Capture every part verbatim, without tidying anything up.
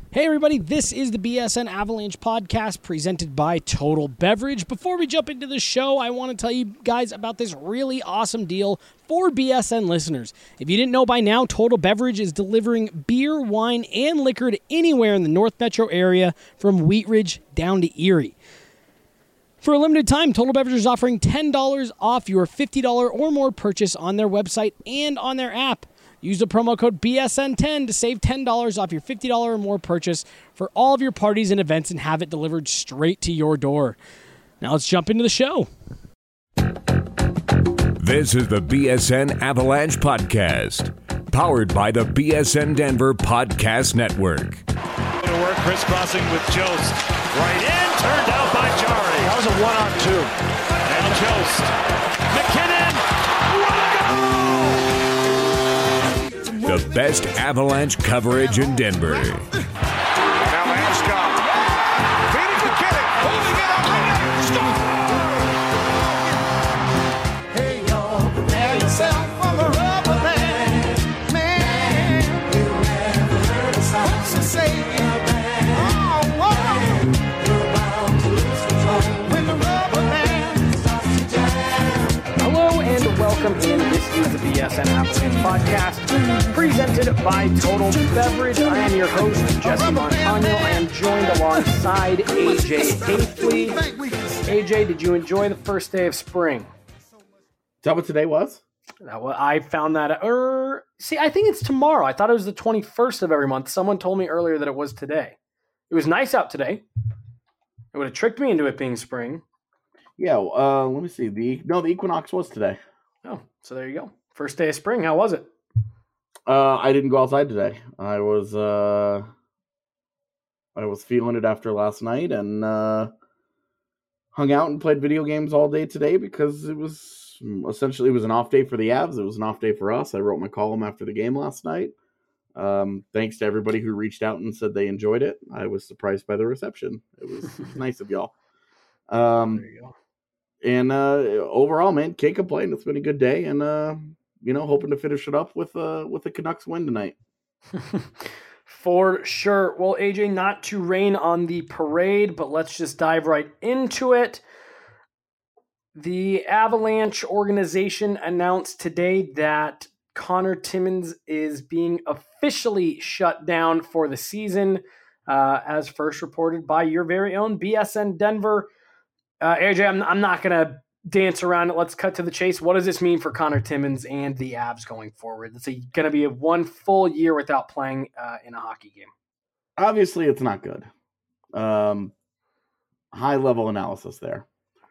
Hey everybody, this is the B S N Avalanche podcast presented by Total Beverage. Before we jump into the show, I want to tell you guys about this really awesome deal for B S N listeners. If you didn't know by now, Total Beverage is delivering beer, wine, and liquor to anywhere in the North Metro area from Wheat Ridge down to Erie. For a limited time, Total Beverage is offering ten dollars off your fifty dollars or more purchase on their website and on their app. Use the promo code B S N ten to save ten dollars off your fifty dollars or more purchase for all of your parties and events and have it delivered straight to your door. Now let's jump into the show. This is the B S N Avalanche Podcast, powered by the B S N Denver Podcast Network. To work, crisscrossing with Jost. Right in, turned out by Jari. That was a one-on-two. And Jost. McKinnon. What a goal! The best Avalanche coverage in Denver. Now Landeskog. Feeding McKinnon. Holding it up. Score! Hey, y'all. Prepare yourself for the rubber band. Man, you never heard a song to say. Oh, whoa. You're bound to lose control when the rubber band starts to jam. Hello and welcome in. This is the B S N Avalanche Podcast, presented by Total Beverage. I am your host, Jesse Montano. I am joined alongside A J Hafley. A J, did you enjoy the first day of spring? Is that what today was? That was, I found that. Er, see, I think it's tomorrow. I thought it was the twenty-first of every month. Someone told me earlier that it was today. It was nice out today. It would have tricked me into it being spring. Yeah, uh, let me see. The No, the equinox was today. Oh, so there you go. First day of spring. How was it? Uh, I didn't go outside today. I was uh, I was feeling it after last night and uh, hung out and played video games all day today because it was essentially it was an off day for the Avs. It was an off day for us. I wrote my column after the game last night. Um, thanks to everybody who reached out and said they enjoyed it. I was surprised by the reception. It was, it was nice of y'all. Um, There you go. And uh, overall, man, can't complain. It's been a good day, and uh, you know, hoping to finish it up with uh, with the Canucks win tonight. For sure. Well, A J, not to rain on the parade, but let's just dive right into it. The Avalanche organization announced today that Connor Timmins is being officially shut down for the season, uh, as first reported by your very own B S N Denver. Uh, A J, I'm, I'm not going to dance around it. Let's cut to the chase. What does this mean for Connor Timmins and the Avs going forward? It's going to be a one full year without playing uh, in a hockey game. Obviously, it's not good. Um, high level analysis there.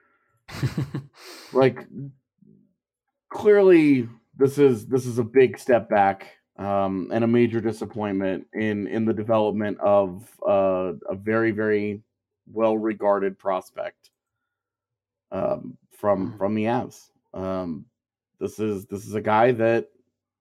Like, clearly, this is this is a big step back um, and a major disappointment in in the development of uh, a very very well regarded prospect. Um, from from the Avs. Um, this is this is a guy that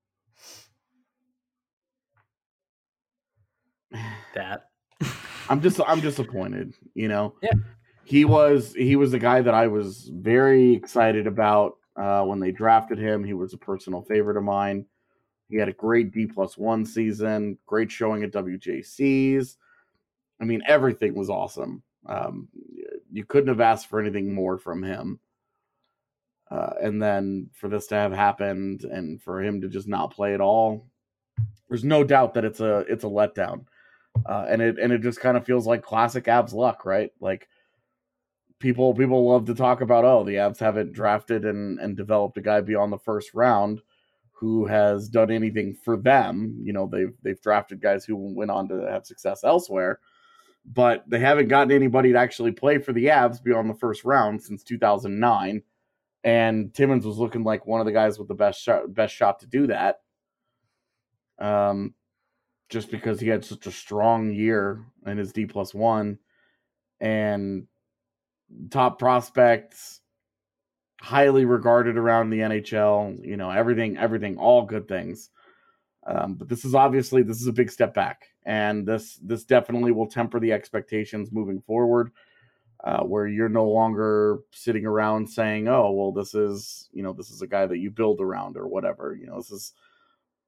That I'm just I'm disappointed. You know, Yeah. he was he was a guy that I was very excited about uh, when they drafted him. He was a personal favorite of mine. He had a great D plus one season, great showing at W J Cs. I mean, everything was awesome. Um, you couldn't have asked for anything more from him. Uh, and then for this to have happened and for him to just not play at all, there's no doubt that it's a it's a letdown. Uh, and it and it just kind of feels like classic Avs luck, right? Like people people love to talk about, oh, the Avs haven't drafted and, and developed a guy beyond the first round who has done anything for them. You know, they've they've drafted guys who went on to have success elsewhere. But they haven't gotten anybody to actually play for the Avs beyond the first round since two thousand nine. And Timmins was looking like one of the guys with the best shot, best shot to do that. Um, just because he had such a strong year in his D plus one and top prospects, highly regarded around the N H L, you know, everything, everything, all good things. Um, but this is obviously, this is a big step back. And this this definitely will temper the expectations moving forward, uh, where you're no longer sitting around saying, "Oh, well, this is you know this is a guy that you build around or whatever." You know, this is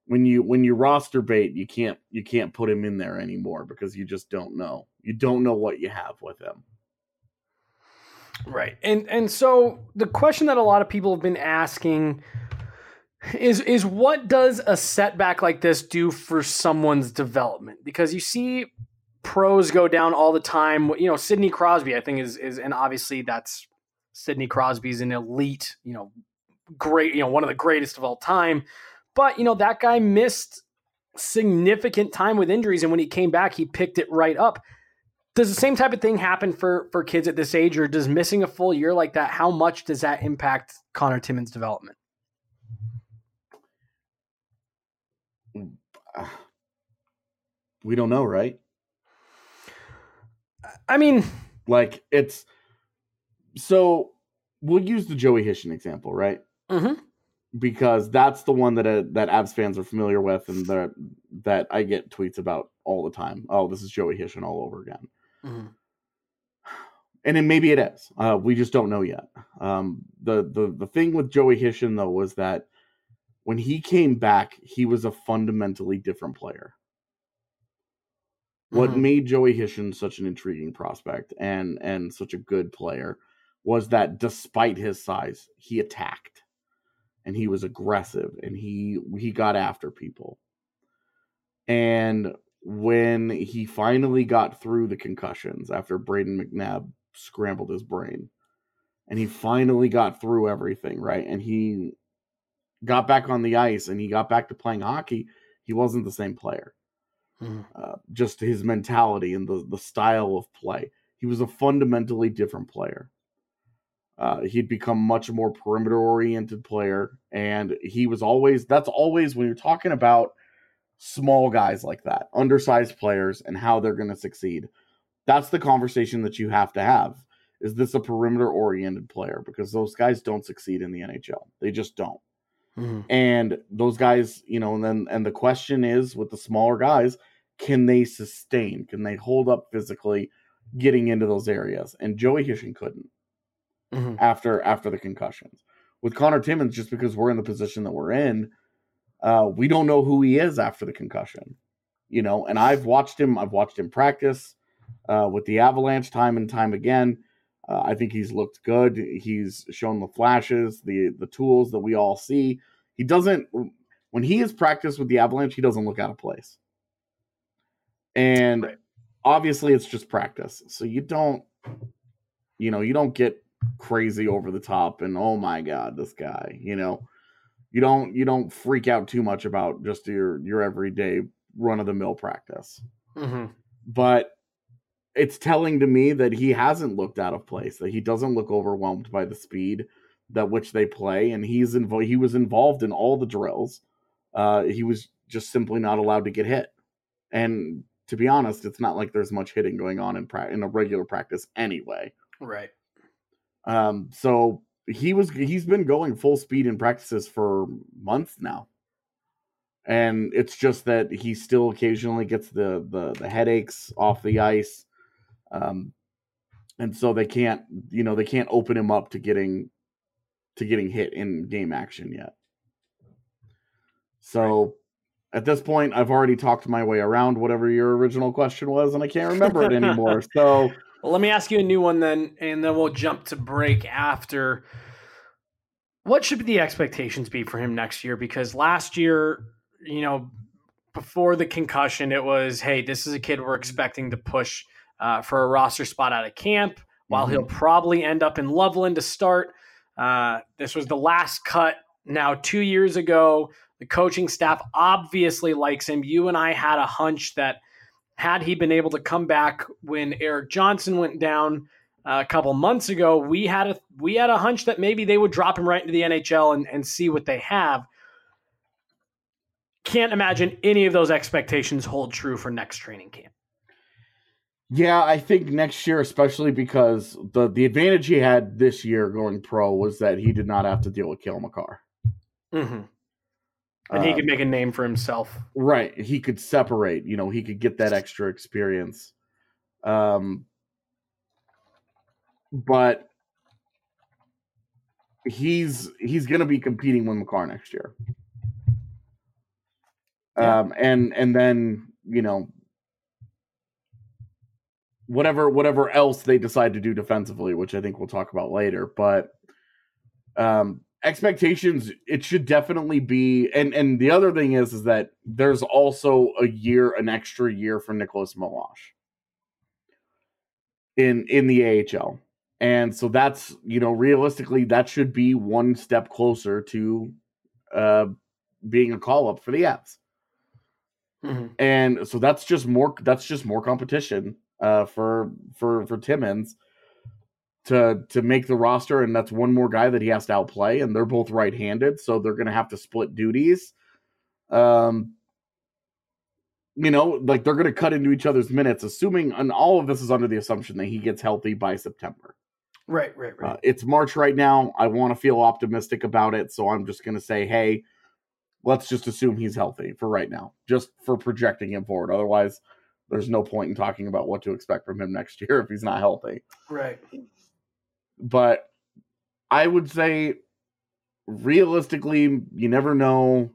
when you when you roster bait, you can't you can't put him in there anymore because you just don't know. You don't know what you have with him. Right. And and so the question that a lot of people have been asking is is what does a setback like this do for someone's development? Because you see pros go down all the time. You know, Sidney Crosby, I think is is and obviously that's Sidney Crosby's an elite, you know, great, you know, one of the greatest of all time. But, you know, that guy missed significant time with injuries, and when he came back, he picked it right up. Does the same type of thing happen for, for kids at this age, or does missing a full year like that, how much does that impact Connor Timmins' development? We don't know, right? I mean, like it's so we'll use the Joey Hishon example, right? Mm-hmm. Because that's the one that uh, that Avs fans are familiar with, and that that I get tweets about all the time. Oh, this is Joey Hishon all over again. Mm-hmm. And then maybe it is. Uh, we just don't know yet. Um, the the the thing with Joey Hishon though was that when he came back, he was a fundamentally different player. What Mm-hmm. made Joey Hishon such an intriguing prospect and and such a good player was that despite his size, he attacked. And he was aggressive, and he he got after people. And when he finally got through the concussions after Braden McNabb scrambled his brain, and he finally got through everything, right? And he got back on the ice, and he got back to playing hockey, he wasn't the same player. Mm-hmm. Uh, just his mentality and the, the style of play. He was a fundamentally different player. Uh, he'd become much more perimeter-oriented player, and he was always, that's always, when you're talking about small guys like that, undersized players, and how they're going to succeed, that's the conversation that you have to have. Is this a perimeter-oriented player? Because those guys don't succeed in the N H L. They just don't. Mm-hmm. And those guys, you know, and then, and the question is, with the smaller guys, can they sustain? Can they hold up physically getting into those areas? And Joey Hishon couldn't. Mm-hmm. After after the concussions. With Connor Timmins, just because we're in the position that we're in, uh, we don't know who he is after the concussion. You know, and I've watched him, I've watched him practice uh, with the Avalanche time and time again. Uh, I think he's looked good. He's shown the flashes, the the tools that we all see. He doesn't, when he has practiced with the Avalanche, he doesn't look out of place. And right. Obviously it's just practice. So you don't, you know, you don't get crazy over the top and oh my god, this guy, you know, you don't you don't freak out too much about just your your everyday run of the mill practice. Mm-hmm. But it's telling to me that he hasn't looked out of place, that he doesn't look overwhelmed by the speed that which they play, and he's invo- he was involved in all the drills. Uh, he was just simply not allowed to get hit. And to be honest, it's not like there's much hitting going on in pra- in a regular practice anyway. Right. Um, so he was, he's been going full speed in practices for months now. And it's just that he still occasionally gets the, the, the headaches off the ice. Um, and so they can't, you know, they can't open him up to getting, to getting hit in game action yet. So at this point, I've already talked my way around whatever your original question was, and I can't remember it anymore. So well, let me ask you a new one then, and then we'll jump to break after. What should the expectations be for him next year? Because last year, you know, before the concussion, it was, hey, this is a kid we're expecting to push uh, for a roster spot out of camp, while mm-hmm. he'll probably end up in Loveland to start. Uh, this was the last cut now two years ago. The coaching staff obviously likes him. You and I had a hunch that had he been able to come back when Eric Johnson went down uh, a couple months ago, we had a we had a hunch that maybe they would drop him right into the N H L and, and see what they have. Can't imagine any of those expectations hold true for next training camp. Yeah, I think next year, especially because the, the advantage he had this year going pro was that he did not have to deal with Cale Makar. Mm-hmm. And he could make a name for himself. Right. He could separate, you know, he could get that extra experience. Um, but he's he's going to be competing with Makar next year. Yeah. Um, and and then, you know, whatever whatever else they decide to do defensively, which I think we'll talk about later. But um, expectations, it should definitely be. And and the other thing is, is that there's also a year, an extra year for Nicholas Milosh in in the A H L. And so that's, you know, realistically, that should be one step closer to uh, being a call-up for the Avs. Mm-hmm. And so that's just more that's just more competition uh, for for for Timmins to to make the roster, and that's one more guy that he has to outplay, and they're both right-handed, so they're going to have to split duties. Um, you know, like they're going to cut into each other's minutes, assuming, and all of this is under the assumption that he gets healthy by September. Right, right, right. Uh, it's March right now. I want to feel optimistic about it, so I'm just going to say, hey, let's just assume he's healthy for right now, just for projecting him forward. Otherwise, there's no point in talking about what to expect from him next year if he's not healthy. Right. But I would say, realistically, you never know.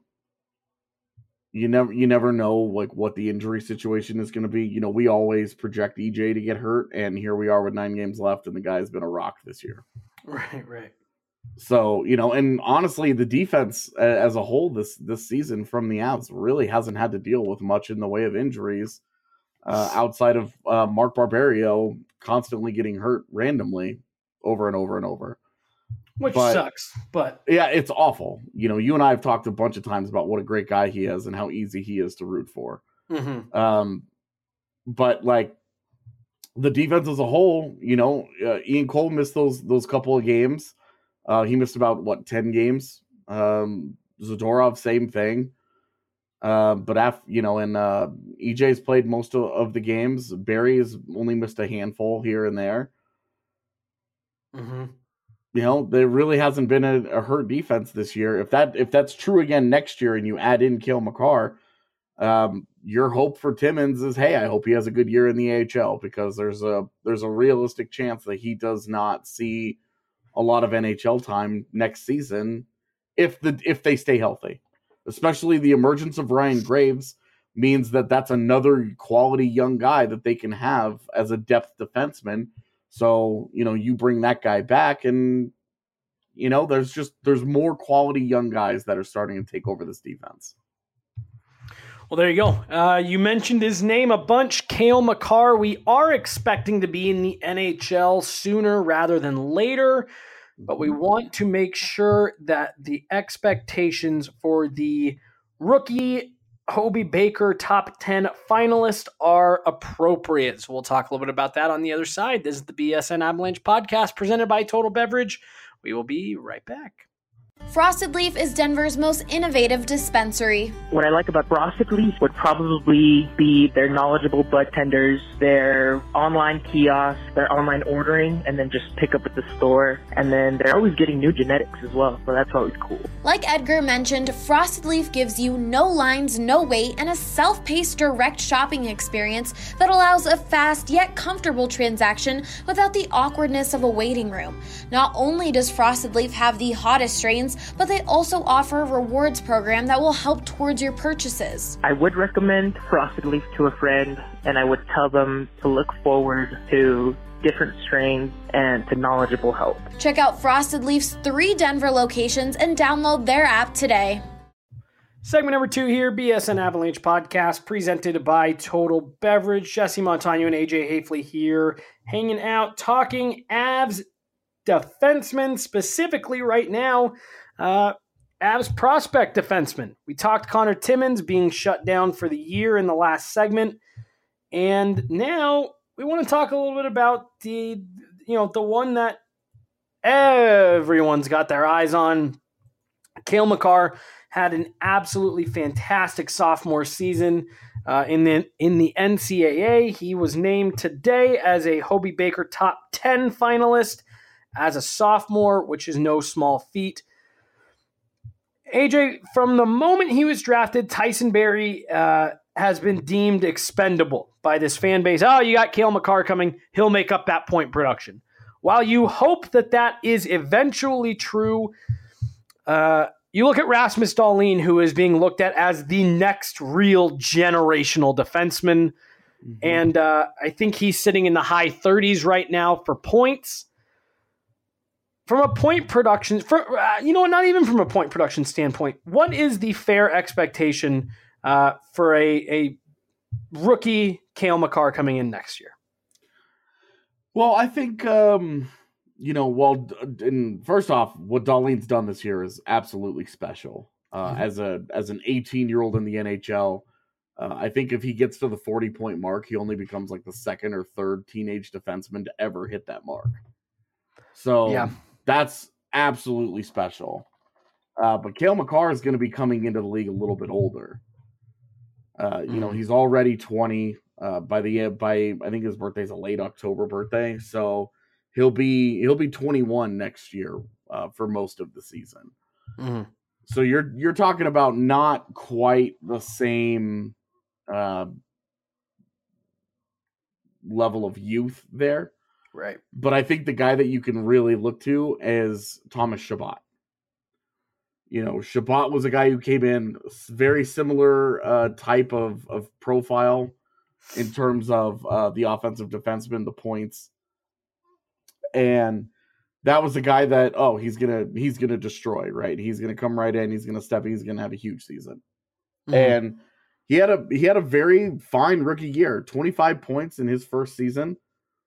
You never, you never know like what the injury situation is going to be. You know, we always project E J to get hurt, and here we are with nine games left, and the guy's been a rock this year. Right, right. So, you know, and honestly, the defense uh, as a whole this this season from the Avs really hasn't had to deal with much in the way of injuries uh, outside of uh, Mark Barberio constantly getting hurt randomly over and over and over. Which but, sucks, but... Yeah, it's awful. You know, you and I have talked a bunch of times about what a great guy he is and how easy he is to root for. Mm-hmm. Um, but, like, the defense as a whole, you know, uh, Ian Cole missed those those couple of games. Uh, he missed about, what, ten games? Um, Zadorov, same thing. Uh, but, af- you know, and uh, E J's played most of, of the games. Barry has only missed a handful here and there. Mm-hmm. You know, there really hasn't been a, a hurt defense this year. If that if that's true again next year and you add in Cale Makar, um, your hope for Timmins is, hey, I hope he has a good year in the A H L, because there's a there's a realistic chance that he does not see a lot of N H L time next season if the if they stay healthy. Especially the emergence of Ryan Graves means that that's another quality young guy that they can have as a depth defenseman. So, you know, you bring that guy back and, you know, there's just, there's more quality young guys that are starting to take over this defense. Well, there you go. Uh, you mentioned his name a bunch, Cale Makar. We are expecting to be in the N H L sooner rather than later, but we want to make sure that the expectations for the rookie Hobey Baker top ten finalists are appropriate. So we'll talk a little bit about that on the other side. This is the B S N Avalanche podcast presented by Total Beverage. We will be right back. Frosted Leaf is Denver's most innovative dispensary. What I like about Frosted Leaf would probably be their knowledgeable bud tenders, their online kiosk, their online ordering, and then just pick up at the store. And then they're always getting new genetics as well, so that's always cool. Like Edgar mentioned, Frosted Leaf gives you no lines, no wait, and a self-paced direct shopping experience that allows a fast yet comfortable transaction without the awkwardness of a waiting room. Not only does Frosted Leaf have the hottest strains, but they also offer a rewards program that will help towards your purchases. I would recommend Frosted Leaf to a friend, and I would tell them to look forward to different strains and to knowledgeable help. Check out Frosted Leaf's three Denver locations and download their app today. Segment number two here, B S N Avalanche podcast, presented by Total Beverage. Jesse Montano and A J Hafley here, hanging out, talking Avs defensemen, specifically right now, uh, Avs prospect defenseman. We talked Connor Timmins being shut down for the year in the last segment, and now we want to talk a little bit about the, you know, the one that everyone's got their eyes on. Cale Makar had an absolutely fantastic sophomore season uh, in the in the N C double A. He was named today as a Hobey Baker top ten finalist as a sophomore, which is no small feat. A J, from the moment he was drafted, Tyson Barrie uh, has been deemed expendable by this fan base. Oh, you got Cale Makar coming. He'll make up that point production. While you hope that that is eventually true, uh, you look at Rasmus Dahlin, who is being looked at as the next real generational defenseman. Mm-hmm. And uh, I think he's sitting in the high thirties right now for points. From a point production, for, uh, you know what, not even from a point production standpoint, what is the fair expectation uh, for a, a rookie Cale Makar coming in next year? Well, I think, um, you know, well, and first off, what Dahlin's done this year is absolutely special. Uh, mm-hmm. As a as an eighteen-year-old in the N H L, uh, I think if he gets to the forty-point mark, he only becomes like the second or third teenage defenseman to ever hit that mark. So yeah. That's absolutely special. Uh, but Cale Makar is going to be coming into the league a little bit older. Uh, you mm-hmm. know, he's already twenty. Uh, by the by, I think his birthday's a late October birthday, so he'll be he'll be twenty-one next year uh, for most of the season. Mm-hmm. So you're you're talking about not quite the same uh, level of youth there. Right. But I think the guy that you can really look to is Thomas Chabot. You know, Chabot was a guy who came in very similar uh, type of, of profile in terms of uh, the offensive defenseman, the points. And that was a guy that, oh, he's going to he's gonna destroy, right? He's going to come right in. He's going to step in. He's going to have a huge season. Mm-hmm. And he had a he had a very fine rookie year, twenty-five points in his first season.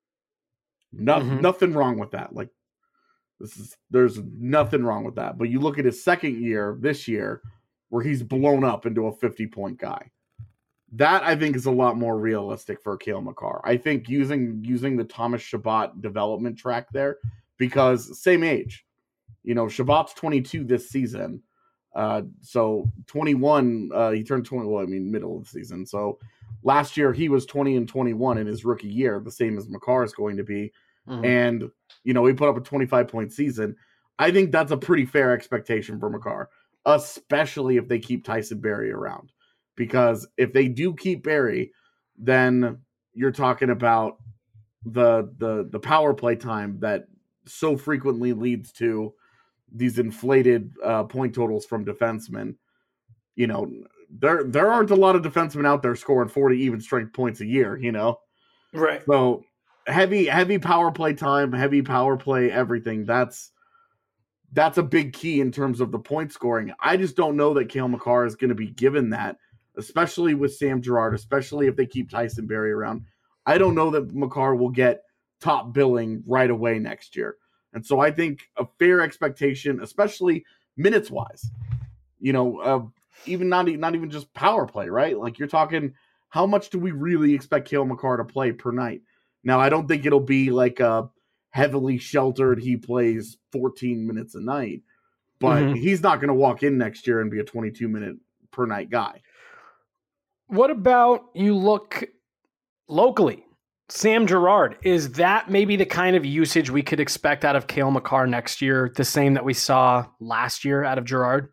No, mm-hmm. Nothing wrong with that. Like, this is there's nothing wrong with that. But you look at his second year this year, where he's blown up into a fifty-point guy. That I think is a lot more realistic for Cale Makar. I think using using the Thomas Chabot development track there, because same age. You know, Chabot's twenty-two this season. Uh, so twenty-one, uh, he turned twenty. Well, I mean, middle of the season. So last year he was twenty and twenty-one in his rookie year, the same as Makar is going to be. Mm-hmm. And, you know, he put up a twenty-five point season. I think that's a pretty fair expectation for Makar, especially if they keep Tyson Barrie around. Because if they do keep Barrie, then you're talking about the the the power play time that so frequently leads to these inflated uh, point totals from defensemen. You know, there there aren't a lot of defensemen out there scoring forty even strength points a year, you know? Right. So heavy, heavy power play time, heavy power play, everything. That's that's a big key in terms of the point scoring. I just don't know that Cale Makar is going to be given that, especially with Sam Girard, especially if they keep Tyson Barrie around. I don't know that Makar will get top billing right away next year. And so I think a fair expectation, especially minutes-wise, you know, uh, even not, not even just power play, right? Like you're talking, how much do we really expect Cale Makar to play per night? Now, I don't think it'll be like a heavily sheltered, he plays fourteen minutes a night, but mm-hmm. he's not going to walk in next year and be a twenty-two minute per night guy. What about you look locally? Sam Girard, is that maybe the kind of usage we could expect out of Cale Makar next year, the same that we saw last year out of Girard?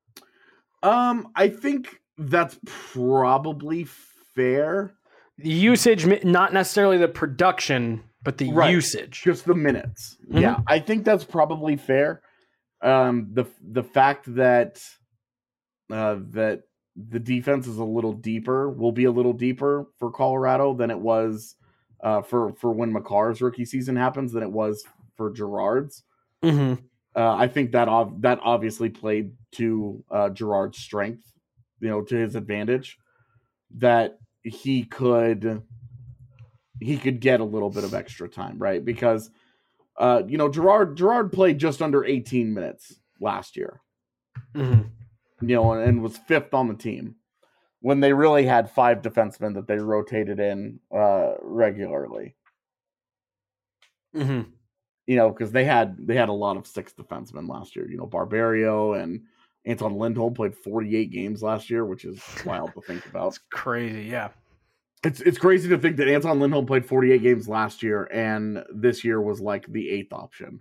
Um, I think that's probably fair. The usage, not necessarily the production, but the right. usage. Just the minutes. Mm-hmm. Yeah, I think that's probably fair. Um, the the fact that uh, that the defense is a little deeper, will be a little deeper for Colorado than it was uh, for, for when Makar's rookie season happens than it was for Girard's. Mm-hmm. Uh, I think that ov- that obviously played to uh, Girard's strength, you know, to his advantage, that he could he could get a little bit of extra time, right? Because uh, you know, Girard Girard played just under eighteen minutes last year. Mm-hmm. You know, and was fifth on the team when they really had five defensemen that they rotated in uh, regularly. Mm-hmm. You know, because they had they had a lot of six defensemen last year. You know, Barberio and Anton Lindholm played forty-eight games last year, which is wild to think about. It's crazy, yeah. It's it's crazy to think that Anton Lindholm played forty-eight games last year, and this year was like the eighth option.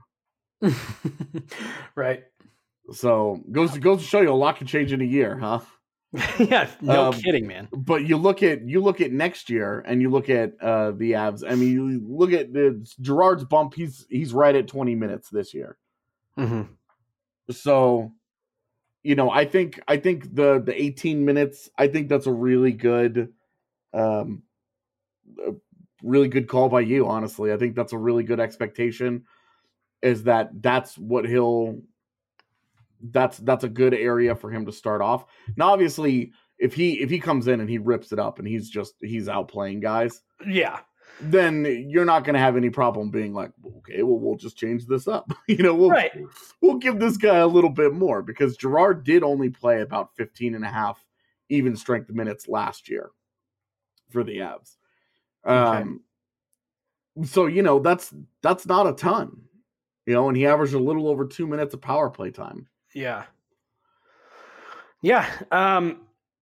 Right. So goes goes to show you a lot can change in a year, huh? Yeah, no um, kidding, man. But you look at you look at next year, and you look at uh, the Avs. I mean, you look at the Girard's bump. He's he's right at twenty minutes this year. Mm-hmm. So you know, I think I think the the eighteen minutes, I think that's a really good um a really good call by you, honestly. I think that's a really good expectation, is that that's what he'll that's that's a good area for him to start off. Now obviously, if he if he comes in and he rips it up and he's just he's outplaying guys, Yeah. then you're not going to have any problem being like, okay, well, we'll just change this up. you know, we'll, Right. we'll give this guy a little bit more, because Girard did only play about fifteen and a half even strength minutes last year for the Avs. Um, okay. So, you know, that's, that's not a ton, you know, and he averaged a little over two minutes of power play time. Yeah. Yeah. Um,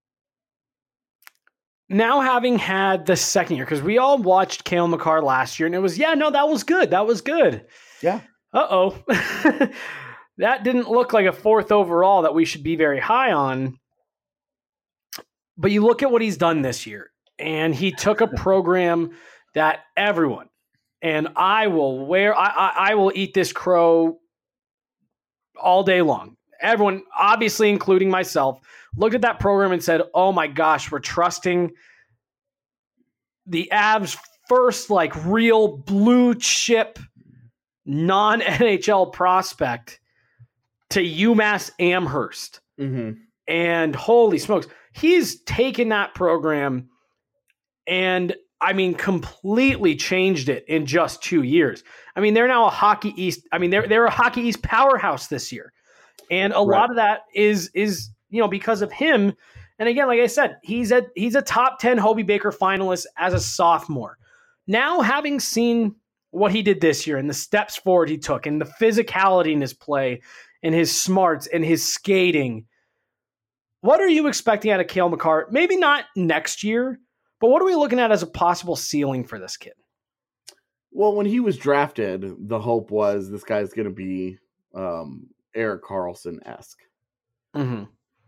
Now having had the second year, because we all watched Cale Makar last year, and it was, yeah, no, that was good. That was good. Yeah. Uh-oh. That didn't look like a fourth overall that we should be very high on. But you look at what he's done this year, and he took a program that everyone, and I will wear, I, I, I will eat this crow all day long. Everyone, obviously including myself, looked at that program and said, oh my gosh, we're trusting the Avs' first like real blue chip non-N H L prospect to UMass Amherst. Mm-hmm. And holy smokes, he's taken that program and, I mean, completely changed it in just two years. I mean, they're now a Hockey East. I mean, they're they're a Hockey East powerhouse this year. And a right. lot of that is, is you know, because of him. And again, like I said, he's a, he's a top ten Hobey Baker finalist as a sophomore. Now, having seen what he did this year and the steps forward he took and the physicality in his play and his smarts and his skating, what are you expecting out of Cale Makar? Maybe not next year, but what are we looking at as a possible ceiling for this kid? Well, when he was drafted, the hope was this guy's going to be um, Erik Karlsson-esque. Mm-hmm.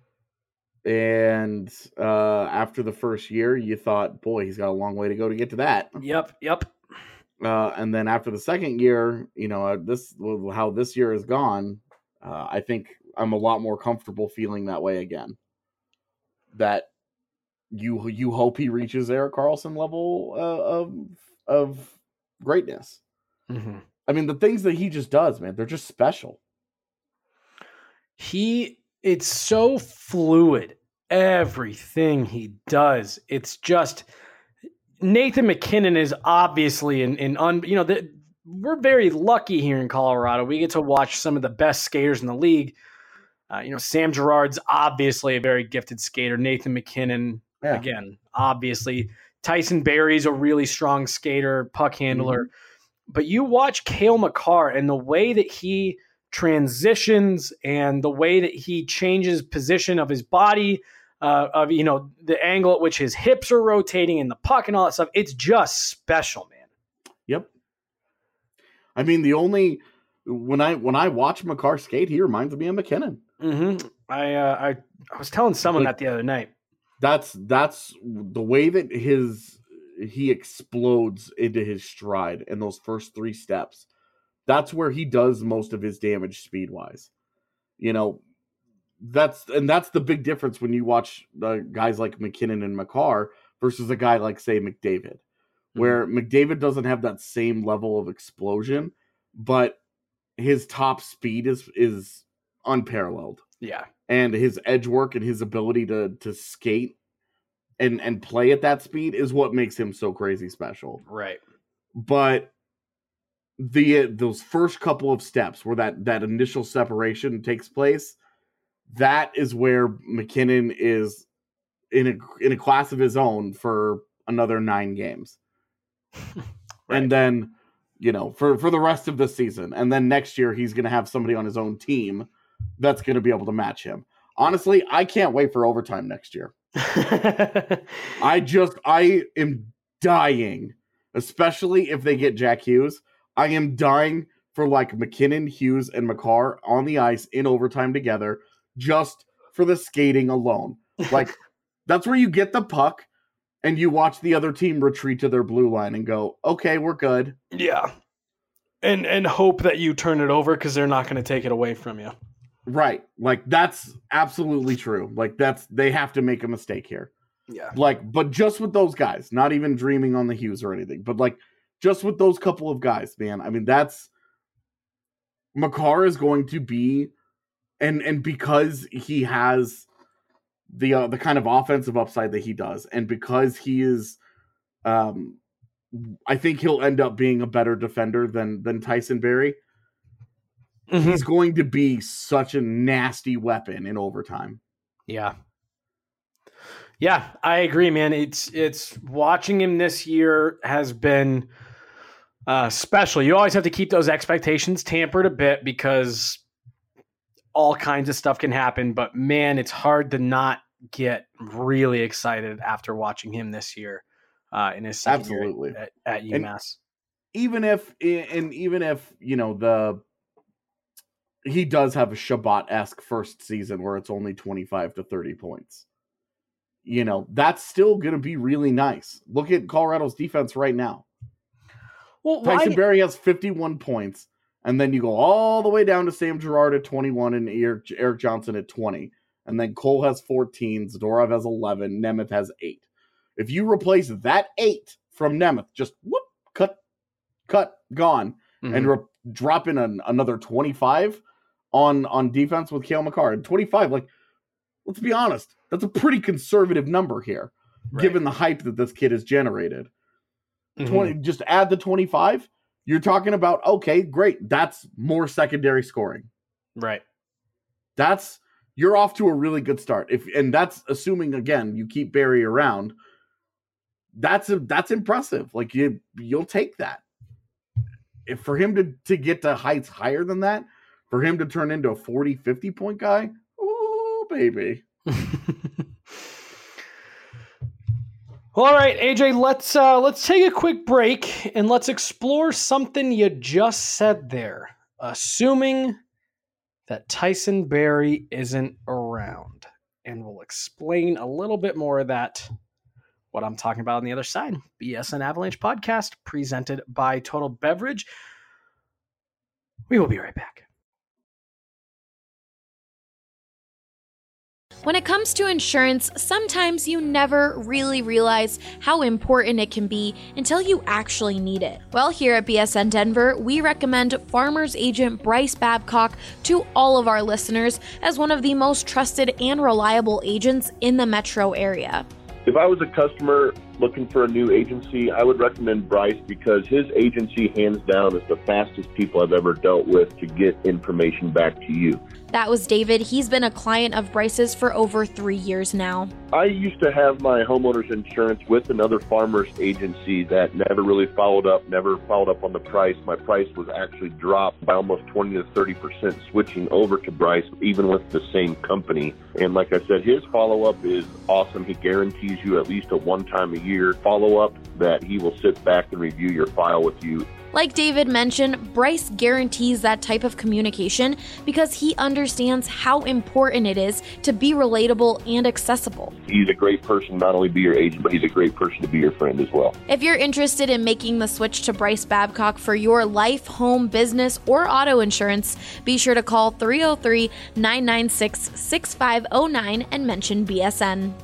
And uh, after the first year, you thought, boy, he's got a long way to go to get to that. Yep, yep. Uh, and then after the second year, you know, uh, this how this year has gone, uh, I think I'm a lot more comfortable feeling that way again. That you you hope he reaches Erik Karlsson level uh, of of greatness. Mm-hmm. I mean, the things that he just does, man, they're just special. He, it's so fluid. Everything he does, it's just Nathan MacKinnon is obviously in, in un, you know, the, we're very lucky here in Colorado. We get to watch some of the best skaters in the league. Uh, you know, Sam Girard's obviously a very gifted skater. Nathan MacKinnon, yeah. again, obviously. Tyson Barrie's a really strong skater, puck handler. Mm-hmm. But you watch Cale Makar and the way that he transitions and the way that he changes position of his body, uh, of, you know, the angle at which his hips are rotating and the puck and all that stuff. It's just special, man. Yep. I mean, the only, when I, when I watch Makar skate, he reminds me of MacKinnon. Mm-hmm. I, uh, I, I was telling someone like, that the other night. That's, that's the way that his, he explodes into his stride in those first three steps. That's where he does most of his damage speed wise. You know, that's, and that's the big difference when you watch uh, guys like MacKinnon and Makar versus a guy like, say, McDavid, mm-hmm. where McDavid doesn't have that same level of explosion, but his top speed is, is unparalleled. Yeah. And his edge work and his ability to, to skate and, and play at that speed is what makes him so crazy special. Right. But the those first couple of steps where that that initial separation takes place, that is where MacKinnon is in a in a class of his own for another nine games. Right. And then, you know, for for the rest of the season, and then next year he's going to have somebody on his own team that's going to be able to match him. Honestly, I can't wait for overtime next year. I just I am dying, especially if they get Jack Hughes. I am dying for like MacKinnon, Hughes, and Makar on the ice in overtime together, just for the skating alone. Like, that's where you get the puck and you watch the other team retreat to their blue line and go, okay, we're good. Yeah. And and hope that you turn it over because they're not going to take it away from you. Right. Like, that's absolutely true. Like, that's, they have to make a mistake here. Yeah. Like, but just with those guys, not even dreaming on the Hughes or anything, but like, just with those couple of guys, man. I mean, that's, Makar is going to be, and and because he has the uh, the kind of offensive upside that he does, and because he is, um, I think he'll end up being a better defender than than Tyson Barrie. Mm-hmm. He's going to be such a nasty weapon in overtime. Yeah. Yeah, I agree, man. It's it's watching him this year has been uh, special. You always have to keep those expectations tempered a bit because all kinds of stuff can happen. But man, it's hard to not get really excited after watching him this year uh, in his second Absolutely. year at, at UMass. And even if, and even if you know the. He does have a Shabbat-esque first season where it's only twenty-five to thirty points. You know, that's still going to be really nice. Look at Colorado's defense right now. Well, Tyson why... Barrie has fifty-one points, and then you go all the way down to Sam Girard at twenty-one and Eric, Eric Johnson at twenty. And then Cole has fourteen, Zadorov has eleven, Nemeth has eight. If you replace that eight from Nemeth, just whoop, cut, cut, gone, mm-hmm. and re- drop in an, another twenty-five on, on defense with Cale Makar. And twenty-five, like, let's be honest, that's a pretty conservative number here, right, given the hype that this kid has generated. Mm-hmm. twenty, just add the twenty-five. You're talking about, okay, great. That's more secondary scoring. Right. That's, you're off to a really good start. If, and that's assuming, again, you keep Barrie around. That's a, that's impressive. Like, you, you'll take that. If for him to, to get to heights higher than that, for him to turn into a forty, fifty point guy, oh, baby. All right, A J, let's uh, let's take a quick break and let's explore something you just said there. Assuming that Tyson Barrie isn't around, and we'll explain a little bit more of that, what I'm talking about on the other side. B S N Avalanche podcast presented by Total Beverage. We will be right back. When it comes to insurance, sometimes you never really realize how important it can be until you actually need it. Well, here at B S N Denver, we recommend Farmers Agent Bryce Babcock to all of our listeners as one of the most trusted and reliable agents in the metro area. If I was a customer looking for a new agency, I would recommend Bryce because his agency, hands down, is the fastest people I've ever dealt with to get information back to you. That was David. He's been a client of Bryce's for over three years now. I used to have my homeowner's insurance with another farmer's agency that never really followed up, never followed up on the price. My price was actually dropped by almost twenty to thirty percent switching over to Bryce, even with the same company. And like I said, his follow-up is awesome. He guarantees you at least a one-time a year follow-up that he will sit back and review your file with you. Like David mentioned, Bryce guarantees that type of communication because he understands how important it is to be relatable and accessible. He's a great person, not only be your agent, but he's a great person to be your friend as well. If you're interested in making the switch to Bryce Babcock for your life, home, business, or auto insurance, be sure to call three oh three, nine nine six, six five oh nine and mention B S N.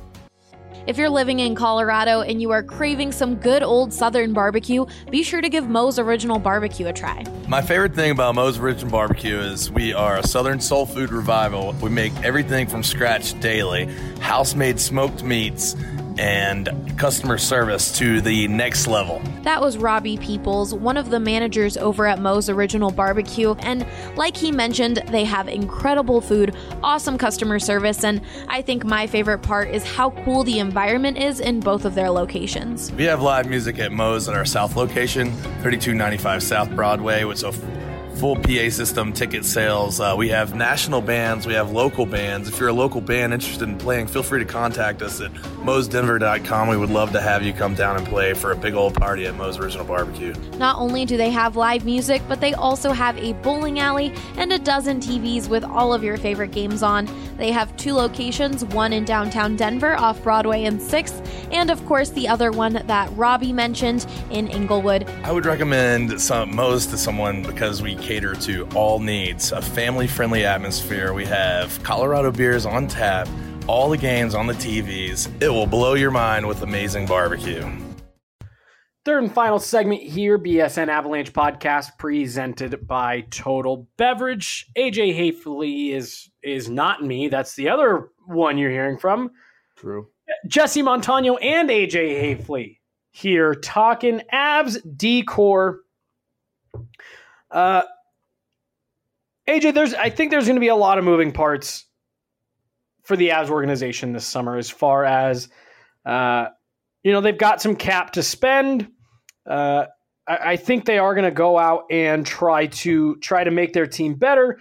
If you're living in Colorado and you are craving some good old Southern barbecue, be sure to give Moe's Original Barbecue a try. My favorite thing about Moe's Original Barbecue is we are a Southern soul food revival. We make everything from scratch daily, house-made smoked meats, and customer service to the next level. That was Robbie Peoples, one of the managers over at Moe's Original Barbecue, and like he mentioned, they have incredible food, awesome customer service, and I think my favorite part is how cool the environment is in both of their locations. We have live music at Moe's at our South location, thirty-two ninety-five South Broadway, which is a full P A system, ticket sales. Uh, we have national bands. We have local bands. If you're a local band interested in playing, feel free to contact us at moes denver dot com. We would love to have you come down and play for a big old party at Moe's Original Barbecue. Not only do they have live music, but they also have a bowling alley and a dozen T Vs with all of your favorite games on. They have two locations, one in downtown Denver off Broadway and sixth, and of course the other one that Robbie mentioned in Inglewood. I would recommend some Moe's to someone because we cater to all needs, a family-friendly atmosphere. We have Colorado beers on tap, all the games on the T Vs. It will blow your mind with amazing barbecue. Third and final segment here, B S N Avalanche podcast presented by Total Beverage. A J Hafley is is not me. That's the other one you're hearing from. True. Jesse Montano and A J Hafley here talking Avs decor. Uh, A J, there's I think there's going to be a lot of moving parts for the Avs organization this summer as far as uh, you know, they've got some cap to spend. Uh, I, I think they are going to go out and try to try to make their team better.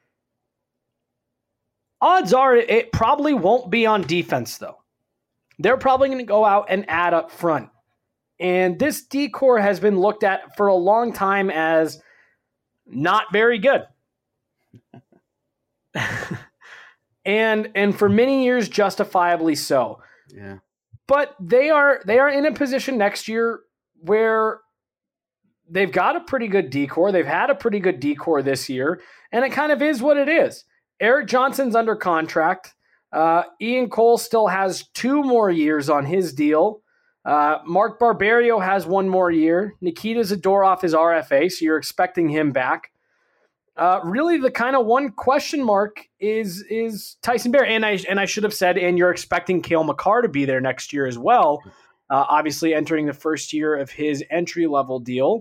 Odds are it probably won't be on defense, though. They're probably going to go out and add up front. And this decor has been looked at for a long time as not very good. and and for many years, justifiably so. Yeah. But they are they are in a position next year where they've got a pretty good decor. They've had a pretty good decor this year, and it kind of is what it is. Eric Johnson's under contract. Uh, Ian Cole still has two more years on his deal. Uh, Mark Barberio has one more year. Nikita Zadorov is R F A, so you're expecting him back. Uh, really, the kind of one question mark is is Tyson Barrie, and I and I should have said, and you're expecting Cale Makar to be there next year as well. Uh, obviously, entering the first year of his entry level deal.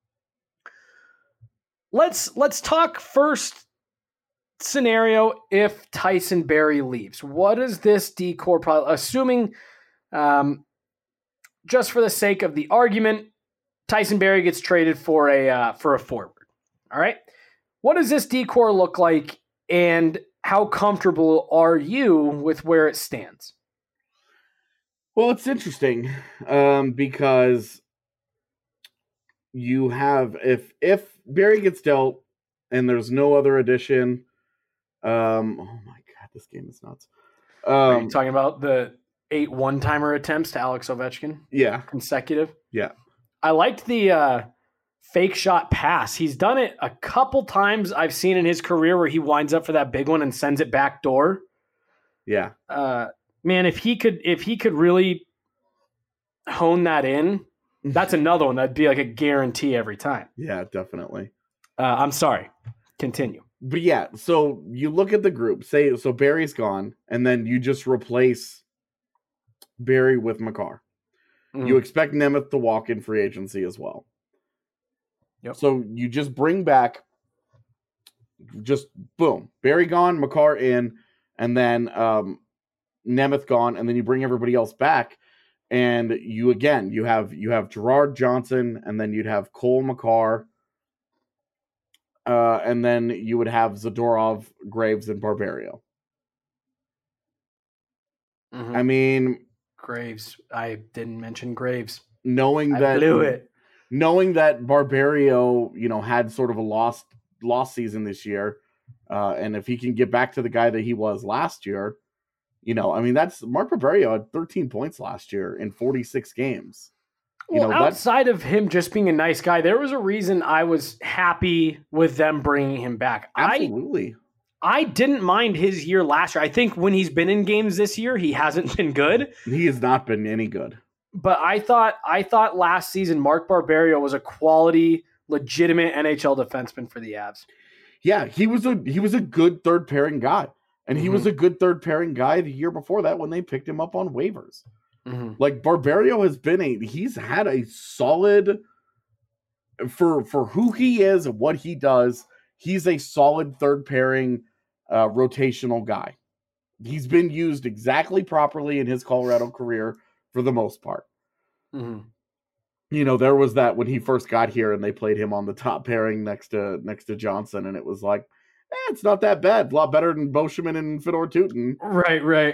Let's let's talk first scenario if Tyson Barrie leaves. What is this decor? Probably, assuming, um, just for the sake of the argument, Tyson Barrie gets traded for a uh, for a forward. All right. What does this decor look like, and how comfortable are you with where it stands? Well, it's interesting um, because you have, if if Barrie gets dealt and there's no other addition, um, oh my God, this game is nuts. Um, are you talking about the eight one-timer attempts to Alex Ovechkin? Yeah. Consecutive? Yeah. I liked the uh, fake shot pass. He's done it a couple times I've seen in his career where he winds up for that big one and sends it back door. Yeah. Uh, man, if he could if he could really hone that in, that's another one that'd be like a guarantee every time. Yeah, definitely. Uh, I'm sorry. Continue. But yeah, so you look at the group, say, so Barry's gone, and then you just replace Barrie with Makar. Mm. You expect Nemeth to walk in free agency as well. Yep. So you just bring back, just boom, Barrie gone, Makar in, and then um, Nemeth gone, and then you bring everybody else back, and you again you have you have Gerard Johnson, and then you'd have Cole Makar, uh, and then you would have Zadorov, Graves, and Barberio. Mm-hmm. I mean, Graves. I didn't mention Graves. Knowing I that blew it. Knowing that Barberio, you know, had sort of a lost lost season this year, uh, and if he can get back to the guy that he was last year, you know, I mean, that's Mark Barberio had thirteen points last year in forty-six games. You well, know, outside of him just being a nice guy, there was a reason I was happy with them bringing him back. Absolutely. I, I didn't mind his year last year. I think when he's been in games this year, he hasn't been good. He has not been any good. But I thought I thought last season Mark Barberio was a quality, legitimate N H L defenseman for the Avs. Yeah, he was a he was a good third pairing guy. And he mm-hmm. was a good third pairing guy the year before that when they picked him up on waivers. Mm-hmm. Like Barberio has been a he's had a solid for for who he is and what he does, he's a solid third pairing uh, rotational guy. He's been used exactly properly in his Colorado career for the most part. Mm-hmm. You know, there was that when he first got here and they played him on the top pairing next to next to Johnson, and it was like, eh, it's not that bad. A lot better than Boschman and Fedor Tutin. Right, right.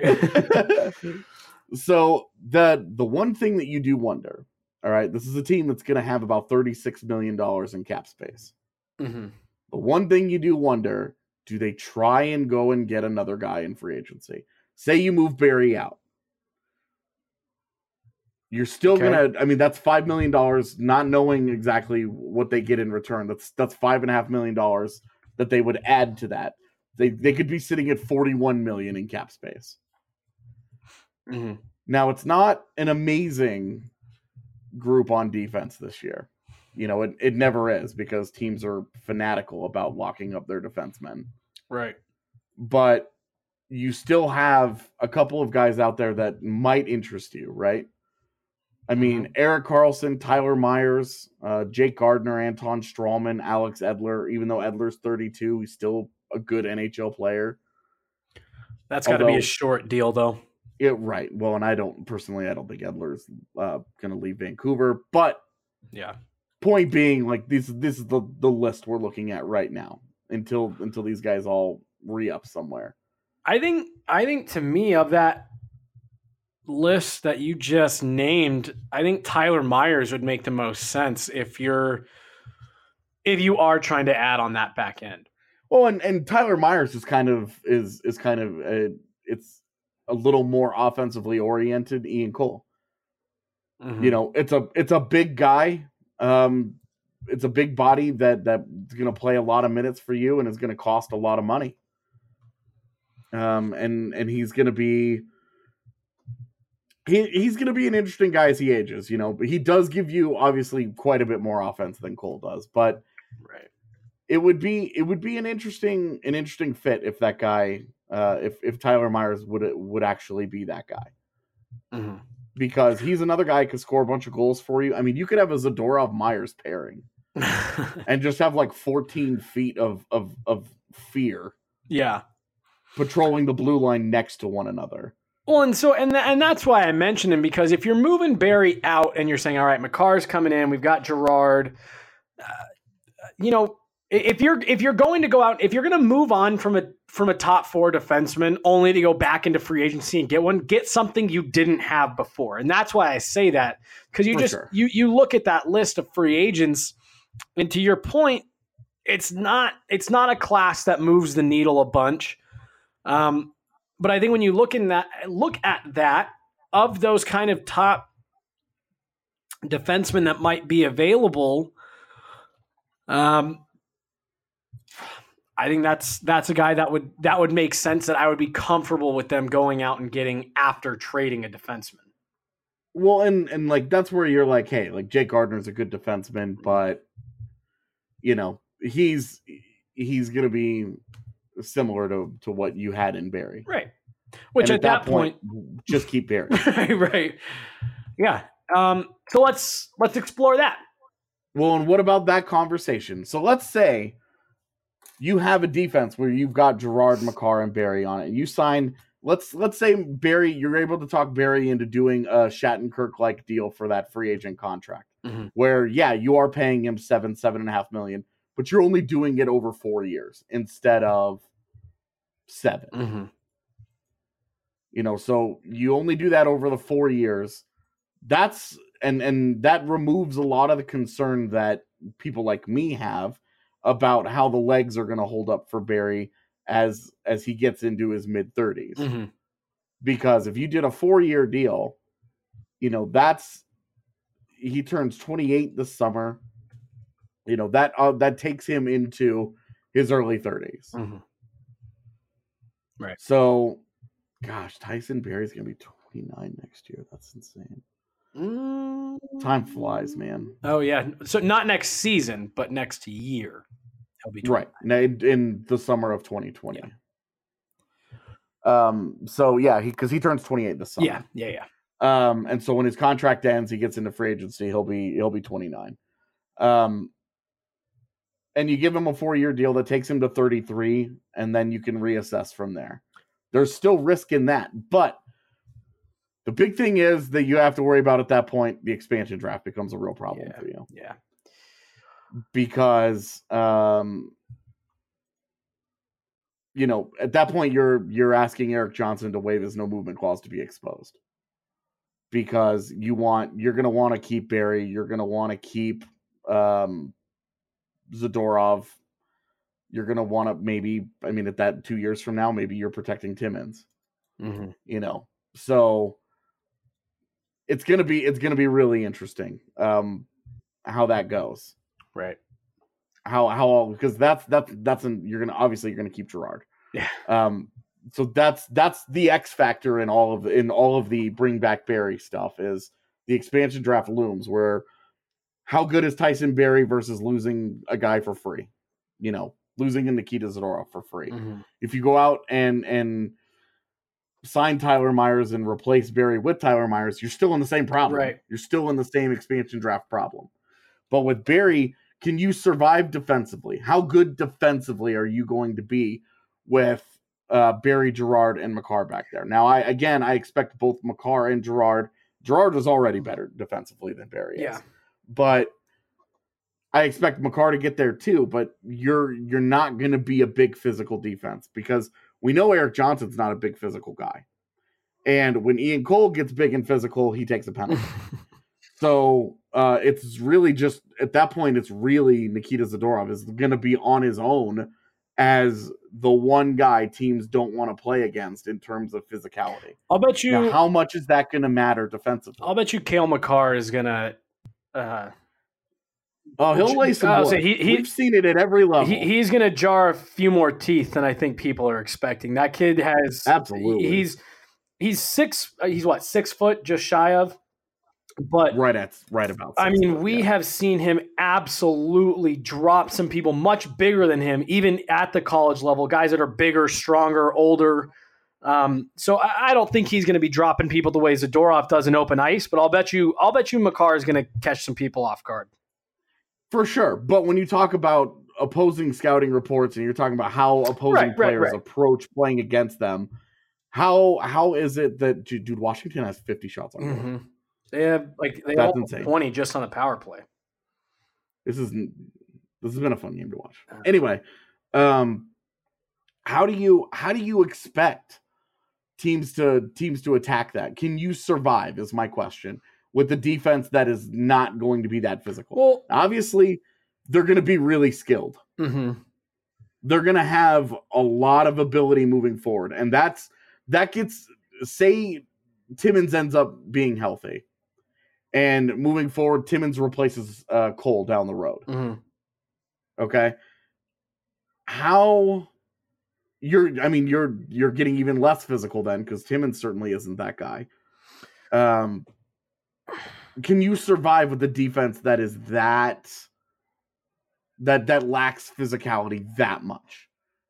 So the the one thing that you do wonder, all right, this is a team that's going to have about thirty-six million dollars in cap space. Mm-hmm. The one thing you do wonder, do they try and go and get another guy in free agency? Say you move Barrie out. You're still Okay. gonna. I mean, that's five million dollars, not knowing exactly what they get in return. That's that's five and a half million dollars that they would add to that. They they could be sitting at forty-one million in cap space. Mm-hmm. Now, it's not an amazing group on defense this year. You know, it, it never is because teams are fanatical about locking up their defensemen. Right. But you still have a couple of guys out there that might interest you, right? I mean, Mm-hmm. Erik Karlsson, Tyler Myers, uh, Jake Gardner, Anton Strawman, Alex Edler. Even though Edler's thirty-two, he's still a good N H L player. That's got to be Although- a short deal, though. Yeah, right. Well, and I don't personally, I don't think Edler's uh, going to leave Vancouver. But Yeah. point being, like this, this is the, the list we're looking at right now until until these guys all re-up somewhere. I think I think to me of that list that you just named, I think Tyler Myers would make the most sense if you're if you are trying to add on that back end. Well, and, and Tyler Myers is kind of is is kind of a, it's a little more offensively oriented. Ian Cole, Mhm. you know, it's a it's a big guy. Um, it's a big body that that's going to play a lot of minutes for you and is going to cost a lot of money. Um, and and he's going to be he he's going to be an interesting guy as he ages. You know, but he does give you obviously quite a bit more offense than Cole does, but. Right. It would be it would be an interesting an interesting fit if that guy uh, if if Tyler Myers would would actually be that guy, Mhm. because he's another guy who could score a bunch of goals for you. I mean, you could have a Zadorov Myers pairing and just have like fourteen feet of of of fear Yeah. patrolling the blue line next to one another. Well, and so and th- and that's why I mentioned him, because if you're moving Barry out and you're saying, all right, McCarr's coming in, we've got Gerard, uh, you know, i- if you're if you're going to go out, if you're going to move on from a from a top four defenseman only to go back into free agency and get one, get something you didn't have before, and that's why I say that, because you For just sure. you you look at that list of free agents, and to your point, it's not it's not a class that moves the needle a bunch. Um, But I think when you look in that, look at that of those kind of top defensemen that might be available, um, I think that's that's a guy that would that would make sense, that I would be comfortable with them going out and getting after trading a defenseman. Well, and and like that's where you're like, hey, like Jake Gardner's a good defenseman, but you know he's he's gonna be similar to to what you had in Barry. Right. Which And at, that, point, just keep Barry. right, right. Yeah. Um, so let's let's explore that. Well, and what about that conversation? So let's say you have a defense where you've got Gerard, Makar, and Barry on it. And you sign, let's let's say Barry, you're able to talk Barry into doing a Shattenkirk-like deal for that free agent contract. Mhm. Where, yeah, you are paying him seven, seven and a half million, but you're only doing it over four years instead of seven. Mm-hmm. You know, so you only do that over the four years. That's and and that removes a lot of the concern that people like me have about how the legs are going to hold up for Barry as as he gets into his mid thirties. Mm-hmm. Because if you did a four-year deal, you know, that's he turns twenty-eight this summer. You know, that uh, that takes him into his early thirties. Mm-hmm. Right. So, gosh, Tyson Barry's going to be twenty-nine next year. That's insane. Mm. Time flies, man. Oh yeah. So not next season, but next year. He'll be Right. Now, In, in the summer of twenty twenty. Um. So, yeah, he because he turns twenty-eight this summer. Yeah. Yeah. Yeah. Um. And so when his contract ends, he gets into free agency. He'll be he'll be twenty-nine. Um. And you give him a four-year deal that takes him to thirty-three, and then you can reassess from there. There's still risk in that, but the big thing is that you have to worry about at that point, the expansion draft becomes a real problem Yeah. for you. Yeah. Because um you know, at that point you're you're asking Eric Johnson to waive his no movement clause to be exposed. Because you want you're gonna want to keep Barry, you're gonna want to keep um Zadorov. You're gonna want to maybe, I mean, at that two years from now, maybe you're protecting Timmins. Mm-hmm. You know. So it's gonna be it's gonna be really interesting um, how that goes. Right. How how because that's that's that's an, you're gonna obviously you're gonna keep Girard. Yeah. Um. So that's that's the X factor in all of in all of the bring back Barry stuff is the expansion draft looms where how good is Tyson Barrie versus losing a guy for free, you know, losing a Nikita Zadorov for free. Mm-hmm. If you go out and and sign Tyler Myers and replace Barrie with Tyler Myers, you're still in the same problem. Right. You're still in the same expansion draft problem. But with Barrie, can you survive defensively? How good defensively are you going to be with uh, Barrie, Girard, and Makar back there? Now, I again, I expect both Makar and Girard. Girard was already better defensively than Barrie is. Yeah. But I expect Makar to get there too. But you're you're not going to be a big physical defense because we know Erik Johnson's not a big physical guy. And when Ian Cole gets big and physical, he takes a penalty. So uh, it's really just, at that point, it's really Nikita Zadorov is going to be on his own as the one guy teams don't want to play against in terms of physicality. I'll bet you. Now, how much is that going to matter defensively? I'll bet you Cale Makar is going to. Uh, oh, he'll lay some wood. He, he, We've seen it at every level. He, he's going to jar a few more teeth than I think people are expecting. That kid has absolutely. He's he's six. He's what six foot, just shy of. But right at right about. I mean, foot, we yeah. have seen him absolutely drop some people much bigger than him, even at the college level. Guys that are bigger, stronger, older. Um, so I, I don't think he's going to be dropping people the way Zadorov does in open ice. But I'll bet you, I'll bet you, Makar is going to catch some people off guard for sure. But when you talk about opposing scouting reports and you're talking about how opposing right, players right, right. approach playing against them, how how is it that dude Washington has fifty shots on goal? Mm-hmm. They have like they That's all insane. twenty just on the power play. This is this has been a fun game to watch. Anyway, um, how do you how do you expect teams to teams to attack that? Can you survive? Is my question with the defense that is not going to be that physical. Well, obviously, they're going to be really skilled. Mm-hmm. They're going to have a lot of ability moving forward, and that's that gets say Timmins ends up being healthy. And moving forward, Timmins replaces uh, Cole down the road. Mm-hmm. Okay, how you're? I mean, you're you're getting even less physical then because Timmins certainly isn't that guy. Um, can you survive with a defense that is that that that lacks physicality that much?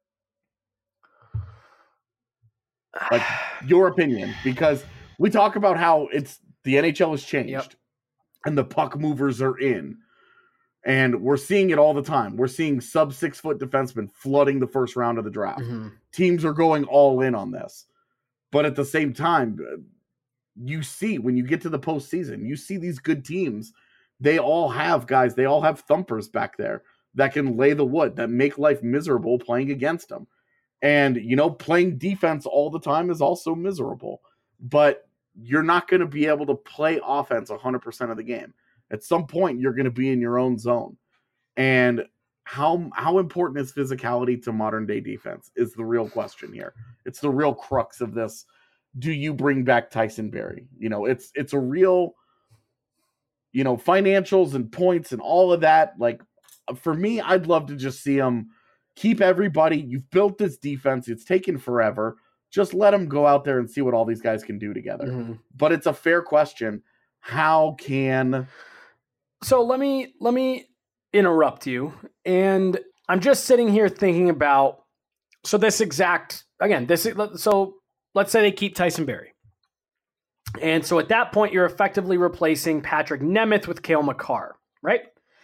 Like your opinion, because we talk about how it's. The N H L has changed, yep. and the puck movers are in, and we're seeing it all the time. We're seeing sub six foot defensemen flooding the first round of the draft. Mm-hmm. Teams are going all in on this, but at the same time, you see when you get to the postseason, you see these good teams. They all have guys. They all have thumpers back there that can lay the wood, that make life miserable playing against them. And you know, playing defense all the time is also miserable, but you're not going to be able to play offense one hundred percent of the game. At some point, you're going to be in your own zone. And how how important is physicality to modern-day defense is the real question here. It's the real crux of this. Do you bring back Tyson Barrie? You know, it's it's a real, you know, financials and points and all of that. Like, for me, I'd love to just see them keep everybody. You've built this defense. It's taken forever. Just let them go out there and see what all these guys can do together. Mm-hmm. But it's a fair question. How can... So let me let me interrupt you. And I'm just sitting here thinking about, so this exact, again, this so let's say they keep Tyson Barrie. And so at that point, you're effectively replacing Patrick Nemeth with Cale Makar, right?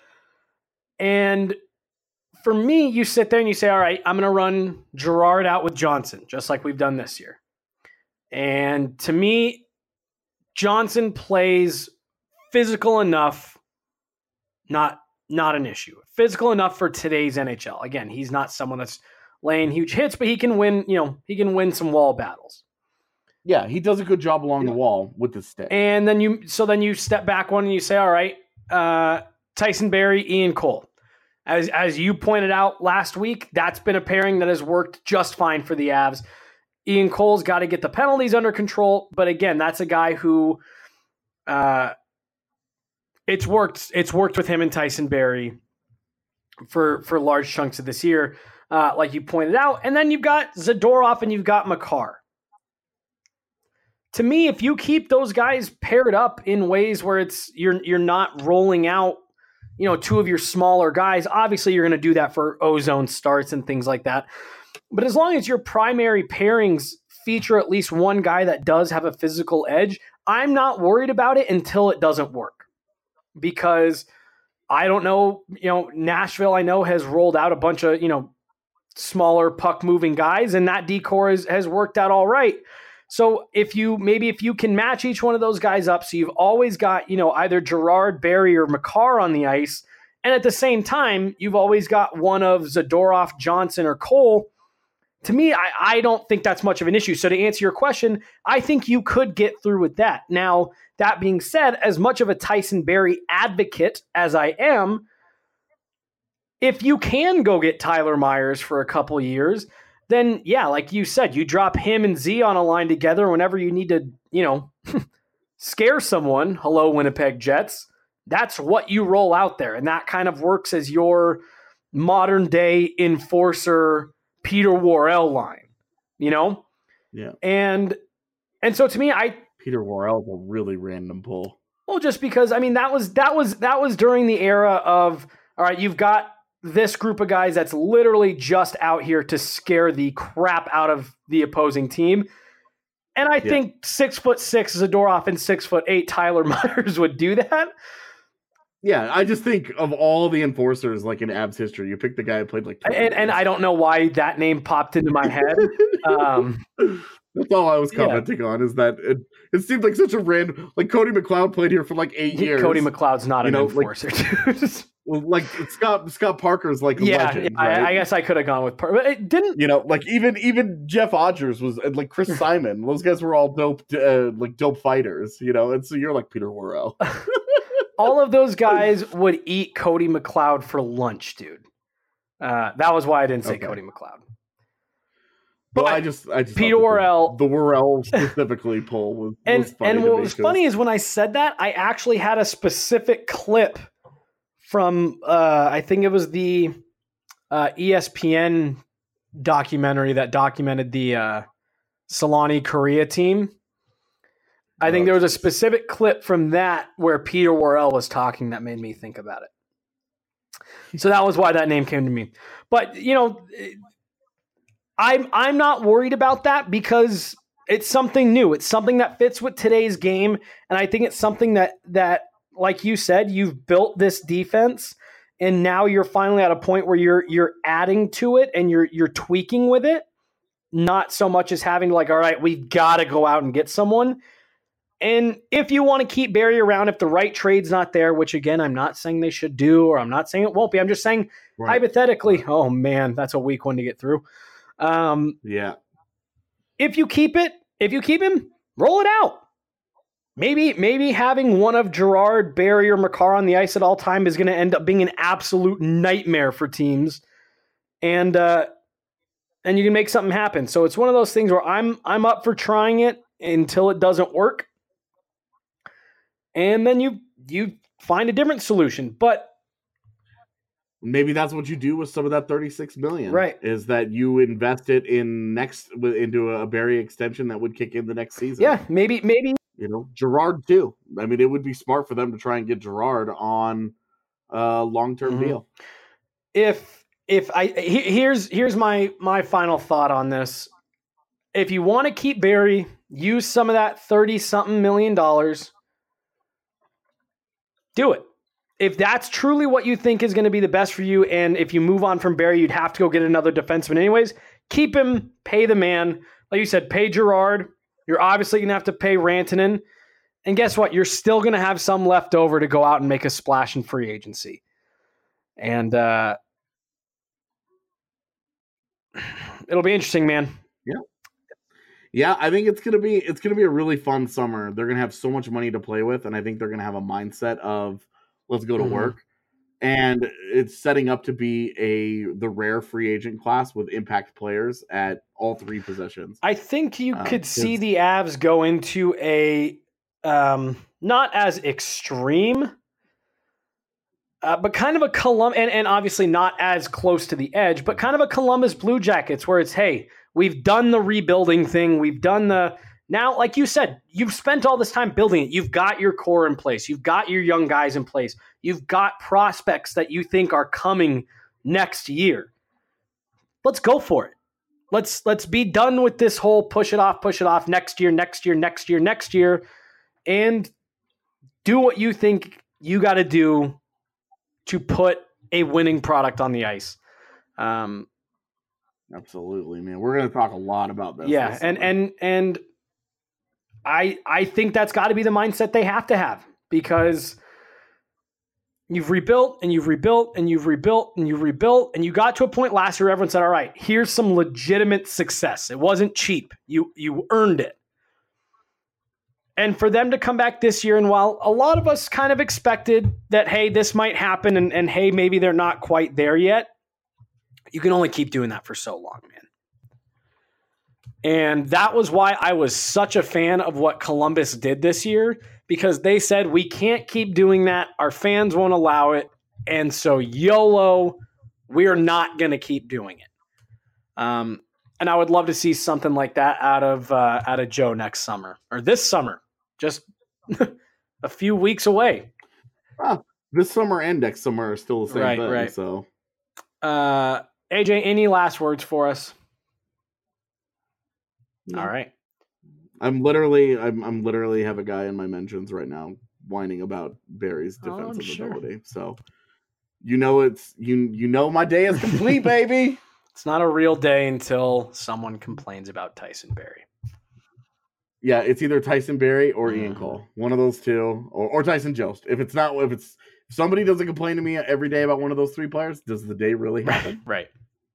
And for me, you sit there and you say, all right, I'm going to run Girard out with Johnson, just like we've done this year. And to me, Johnson plays physical enough, not, not an issue. Physical enough for today's N H L. Again, he's not someone that's laying huge hits, but he can win, you know, he can win some wall battles. Yeah, he does a good job along the wall with the stick. And then you, so then you step back one and you say, all right, uh, Tyson Barrie, Ian Cole. As as you pointed out last week, that's been a pairing that has worked just fine for the Avs. Ian Cole's got to get the penalties under control, but again, that's a guy who uh, it's worked. It's worked with him and Tyson Barrie for for large chunks of this year, uh, like you pointed out. And then you've got Zadorov and you've got Makar. To me, if you keep those guys paired up in ways where it's you're you're not rolling out, you know, two of your smaller guys, obviously you're going to do that for ozone starts and things like that. But as long as your primary pairings feature at least one guy that does have a physical edge, I'm not worried about it until it doesn't work. Because I don't know, you know, Nashville, I know, has rolled out a bunch of, you know, smaller puck moving guys, and that decor has, has worked out all right. So if you, maybe if you can match each one of those guys up, so you've always got, you know, either Girard, Barrie, or Makar on the ice, and at the same time, you've always got one of Zadorov, Johnson, or Cole. To me, I, I don't think that's much of an issue. So to answer your question, I think you could get through with that. Now, that being said, as much of a Tyson Barrie advocate as I am, if you can go get Tyler Myers for a couple years, then yeah, like you said, you drop him and Z on a line together whenever you need to, you know, scare someone. Hello, Winnipeg Jets. That's what you roll out there. And that kind of works as your modern day enforcer Peter Worrell line, you know? Yeah. And and so to me, I Peter Worrell's a really random pull. Well, just because I mean that was that was that was during the era of all right, you've got this group of guys that's literally just out here to scare the crap out of the opposing team. And I yeah. think six foot six Zadorov and six foot eight Tyler Myers would do that. Yeah, I just think of all the enforcers like in Abs history, you pick the guy who played like and, and I don't know why that name popped into my head. Um, That's all I was commenting yeah. on is that it, it seemed like such a random, like Cody McLeod played here for like eight years. Cody McLeod's not you an know, enforcer. Like, well, like Scott Scott Parker's like a yeah, legend. Yeah, right? I, I guess I could have gone with Parker, but it didn't. You know, like even even Jeff Odgers was like Chris Simon. Those guys were all dope, uh, like dope fighters. You know, and so you're like Peter Worrell. All of those guys would eat Cody McLeod for lunch, dude. Uh, that was why I didn't say okay. Cody McLeod. But well, I just, I just Peter Worrell, the, the Worrell specifically pull was, and was funny and what was cause... funny is when I said that, I actually had a specific clip from uh, I think it was the uh, E S P N documentary that documented the uh, Solani Korea team. I think there was a specific clip from that where Peter Worrell was talking that made me think about it. So that was why that name came to me. But, you know, I'm I'm not worried about that because it's something new. It's something that fits with today's game. And I think it's something that, that like you said, you've built this defense and now you're finally at a point where you're you're adding to it and you're you're tweaking with it. Not so much as having like, all right, we've got to go out and get someone. And if you want to keep Barrie around, if the right trade's not there, which again, I'm not saying they should do, or I'm not saying it won't be. I'm just saying right. hypothetically, oh man, that's a weak one to get through. Um, yeah. If you keep it, if you keep him, roll it out. Maybe, maybe having one of Girard, Barrie, or Makar on the ice at all time is going to end up being an absolute nightmare for teams. And, uh, and you can make something happen. So it's one of those things where I'm, I'm up for trying it until it doesn't work. And then you you find a different solution. But maybe that's what you do with some of that thirty-six million dollars. Right. Is that you invest it in next into a Barrie extension that would kick in the next season. Yeah, maybe maybe you know, Girard too. I mean, it would be smart for them to try and get Girard on a long-term mm-hmm. deal. If if I he, here's here's my my final thought on this. If you want to keep Barrie, use some of that thirty something million dollars. Do it. If that's truly what you think is going to be the best for you, and if you move on from Barrie, you'd have to go get another defenseman anyways, keep him, pay the man. Like you said, pay Girard. You're obviously going to have to pay Rantanen. And guess what? You're still going to have some left over to go out and make a splash in free agency. And uh, it'll be interesting, man. Yeah. Yeah, I think it's gonna be it's gonna be a really fun summer. They're gonna have so much money to play with, and I think they're gonna have a mindset of let's go to mm-hmm. work. And it's setting up to be a the rare free agent class with impact players at all three positions. I think you um, could see the Avs go into a um, not as extreme, uh, but kind of a Colum, and, and obviously not as close to the edge, but kind of a Columbus Blue Jackets where it's, hey, we've done the rebuilding thing. We've done the, now, like you said, you've spent all this time building it. You've got your core in place. You've got your young guys in place. You've got prospects that you think are coming next year. Let's go for it. Let's let's be done with this whole push it off, push it off next year, next year, next year, next year, and do what you think you got to do to put a winning product on the ice. Um, Absolutely, man. We're going to talk a lot about this. Yeah, this and summer. and and I I think that's got to be the mindset they have to have, because you've rebuilt and you've rebuilt and you've rebuilt and you've rebuilt, and you got to a point last year everyone said, all right, here's some legitimate success. It wasn't cheap. You you earned it. And for them to come back this year, and while a lot of us kind of expected that, hey, this might happen, and, and hey, maybe they're not quite there yet, you can only keep doing that for so long, man. And that was why I was such a fan of what Columbus did this year, because they said, we can't keep doing that. Our fans won't allow it. And so YOLO, we're not going to keep doing it. Um, and I would love to see something like that out of uh, out of Joe next summer, or this summer, just a few weeks away. Ah, this summer and next summer are still the same Right, thing. right. So, Uh, A J, any last words for us? no. All right. I'm literally, I'm, I'm literally have a guy in my mentions right now whining about Barry's Oh, I'm defensive sure. ability. So, you know, it's you, you know, my day is complete, baby. It's not a real day until someone complains about Tyson Barrie. Yeah, it's either Tyson Barrie or Ian Mhm. Cole, one of those two, or, or Tyson Jost. If it's not, if it's if somebody doesn't complain to me every day about one of those three players, does the day really happen? Right.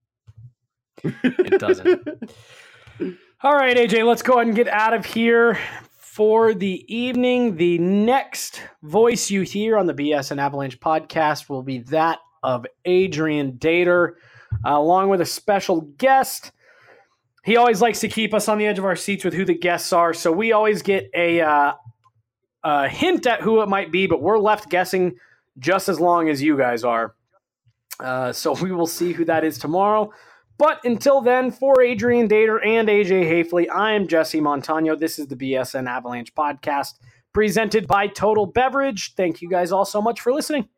It doesn't. All right, A J, let's go ahead and get out of here for the evening. The next voice you hear on the B S N Avalanche podcast will be that of Adrian Dater, uh, along with a special guest. He always likes to keep us on the edge of our seats with who the guests are, so we always get a, uh, a hint at who it might be, but we're left guessing just as long as you guys are. Uh, so we will see who that is tomorrow. But until then, for Adrian Dater and A J Hafley, I am Jesse Montano. This is the B S N Avalanche podcast presented by Total Beverage. Thank you guys all so much for listening.